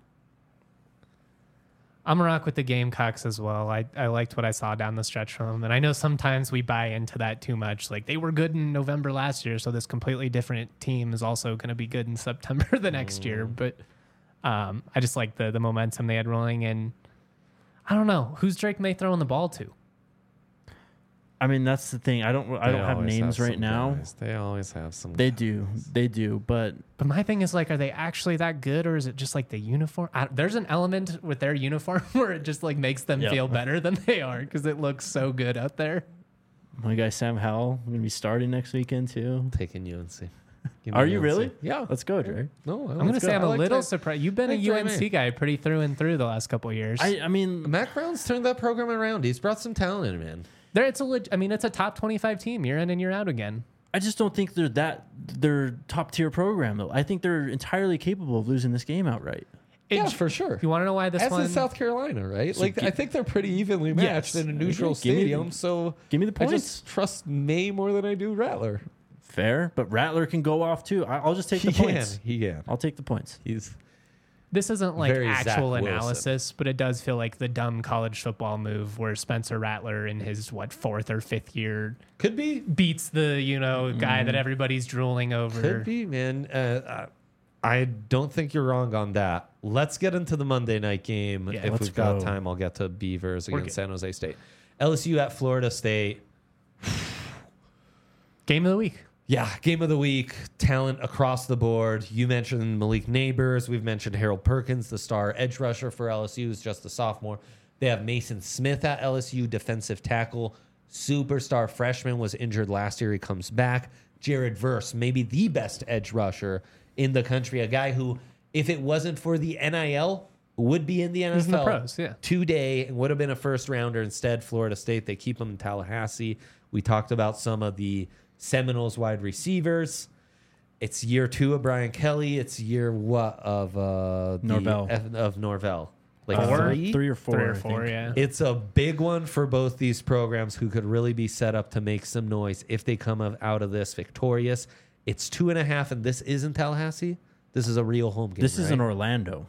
I'm gonna rock with the Gamecocks as well. I, I liked what I saw down the stretch from them, and I know sometimes we buy into that too much. Like, they were good in November last year, so this completely different team is also going to be good in September the next year. But um, I just like the the momentum they had rolling, and I don't know who's Drake May throwing the ball to. I mean, that's the thing. I don't. I They don't have always names have right some now. guys. They always have some. They guys. do. They do. But But my thing is, like, are they actually that good, or is it just like the uniform? I, there's an element with their uniform where it just like makes them Yeah. feel better than they are because it looks so good out there. my guy Sam Howell going to be starting next weekend too. Taking U N C. Give me Are you U N C. really? Yeah. Let's go, Dre. No, I I'm gonna let's say go. I'm I a like little Drake- surprised. You've been a like Drake U N C May. guy pretty through and through the last couple of years. I. I mean, Matt Brown's turned that program around. He's brought some talent in, man. there, it's a. leg- I mean, it's a top twenty-five team year in and year out again. I just don't think they're that. They're top tier program though. I think they're entirely capable of losing this game outright. It- yeah, for sure. You want to know why this As one? is South Carolina, right? So like, gi- I think they're pretty evenly matched Yes. in a neutral Give me the- stadium. so Give me the I points. just trust May more than I do Rattler. Fair, but Rattler can go off too. I, I'll just take He the points. can. He can. I'll take the points. He's This isn't like Very Zach actual Wilson. analysis, but it does feel like the dumb college football move where Spencer Rattler in his what fourth or fifth year could be. beats the you know guy that everybody's drooling over. Could be, man. Uh, uh, I don't think you're wrong on that. Let's get into the Monday night game. Yeah, if let's we've got go. time, I'll get to Beavers We're against good. San Jose State. L S U at Florida State. Game of the week. Yeah, game of the week, talent across the board. You mentioned Malik Neighbors. We've mentioned Harold Perkins, the star edge rusher for L S U, who's just a sophomore. They have Mason Smith at L S U, defensive tackle. Superstar freshman, was injured last year. He comes back. Jared Verse, maybe the best edge rusher in the country. A guy who, if it wasn't for the N I L, would be in the N F L He's in the pros, yeah. today and would have been a first rounder. Instead, Florida State, they keep him in Tallahassee. We talked about some of the Seminoles wide receivers. It's year two of Brian Kelly. It's year what of uh, the Norvell. F- of Norvell. Like Four? three? Three or four. Three or I four, think. yeah. It's a big one for both these programs who could really be set up to make some noise if they come of- out of this victorious. It's two and a half, and this isn't Tallahassee. This is a real home game. This is right? in Orlando.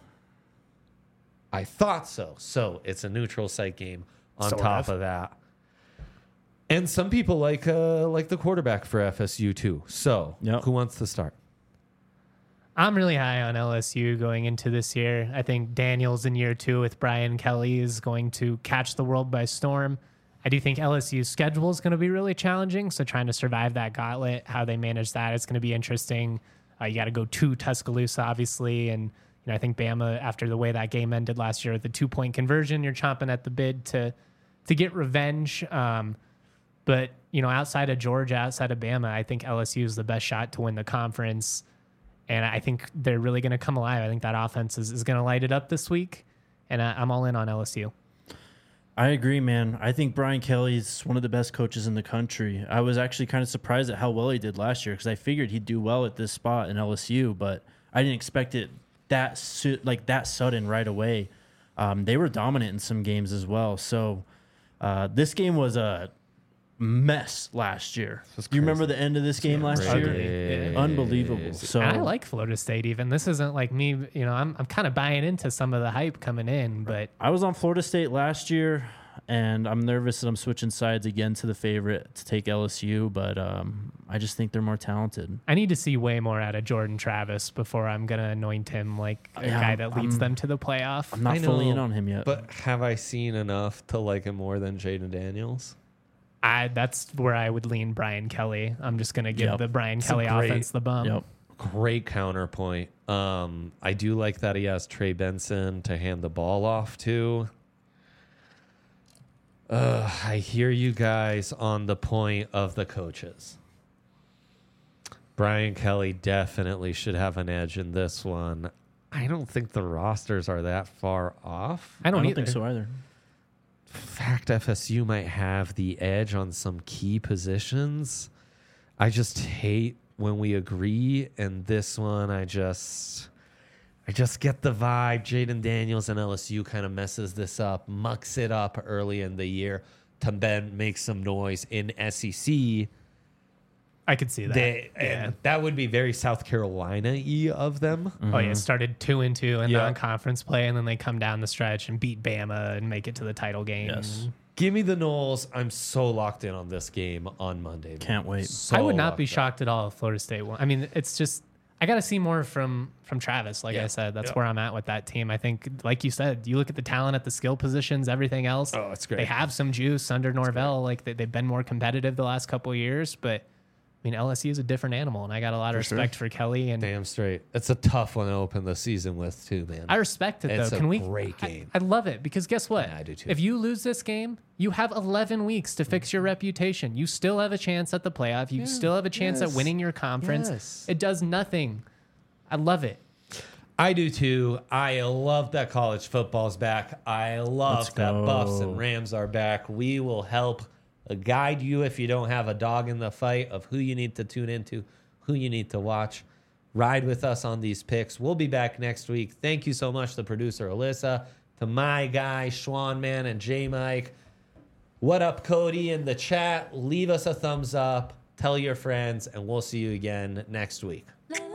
I thought so. So it's a neutral site game on Sort top of. of that. And some people like uh, like the quarterback for F S U too. So Yep. who wants to start? I'm really high on L S U going into this year. I think Daniels in year two with Brian Kelly is going to catch the world by storm. I do think L S U's schedule is going to be really challenging. So trying to survive that gauntlet, how they manage that, it's going to be interesting. Uh, you got to go to Tuscaloosa, obviously. And you know, I think Bama, after the way that game ended last year with the two-point conversion, you're chomping at the bit to to get revenge. Um, but, you know, outside of Georgia, outside of Bama, I think L S U is the best shot to win the conference. And I think they're really going to come alive. I think that offense is, is going to light it up this week. And I, I'm all in on L S U. I agree, man. I think Brian Kelly's one of the best coaches in the country. I was actually kind of surprised at how well he did last year because I figured he'd do well at this spot in L S U, but I didn't expect it that su- like that sudden right away. Um, they were dominant in some games as well. So uh, this game was a mess last year. Do you remember the end of this game last year? Crazy. Unbelievable. So And I like Florida State even. This isn't like me, you know, I'm, I'm kind of buying into some of the hype coming in, but I was on Florida State last year, and I'm nervous that I'm switching sides again to the favorite to take L S U, but um, I just think they're more talented. I need to see way more out of Jordan Travis before I'm going to anoint him like a Yeah, guy that leads I'm- them to the playoff. I'm not I fully in know, on him yet. But have I seen enough to like him more than Jaden Daniels? I that's where I would lean Brian Kelly. I'm just going to give Yep. the Brian It's a Kelly great- offense the bum. Yep. Great counterpoint. Um, I do like that he has Trey Benson to hand the ball off to. Uh, I hear you guys on the point of the coaches. Brian Kelly definitely should have an edge in this one. I don't think the rosters are that far off. I I don't, don't either. think so either. Fact, F S U might have the edge on some key positions. I just hate when we agree, and this one I just I just get the vibe Jaden Daniels and L S U kind of messes this up, mucks it up early in the year to then make some noise in S E C. I could see that. They, yeah. and that would be very South Carolina-y of them. Oh yeah, started two and two in Yeah. non-conference play, and then they come down the stretch and beat Bama and make it to the title game. Yes. Give me the Knowles. I'm so locked in on this game on Monday. man. Can't wait. So I would not be locked in. shocked at all if Florida State won. I mean, it's just I got to see more from from Travis. Like Yeah. I said, that's Yeah. where I'm at with that team. I think, like you said, you look at the talent at the skill positions, everything else. Oh, it's great. They have some juice under Norvell. Like they, they've been more competitive the last couple of years, but I mean, L S U is a different animal, and I got a lot of For respect sure. for Kelly. And Damn straight. It's a tough one to open the season with, too, man. I respect it It's though. a Can we? great I- game. I, love it because guess what? Yeah, I do too. If you lose this game, you have eleven weeks to fix your reputation. You still have a chance at the playoff. You still have a chance yes. at winning your conference. Yes. It does nothing. I love it. I do too. I love that college football's back. I love Let's that go. Buffs and Rams are back. We will help guide you if you don't have a dog in the fight of who you need to tune into, who you need to watch. Ride with us on these picks. We'll be back next week. Thank you so much to producer Alyssa, to my guy Schwan Man and J Mike. What up, Cody, in the chat? Leave us a thumbs up. Tell your friends, and we'll see you again next week. La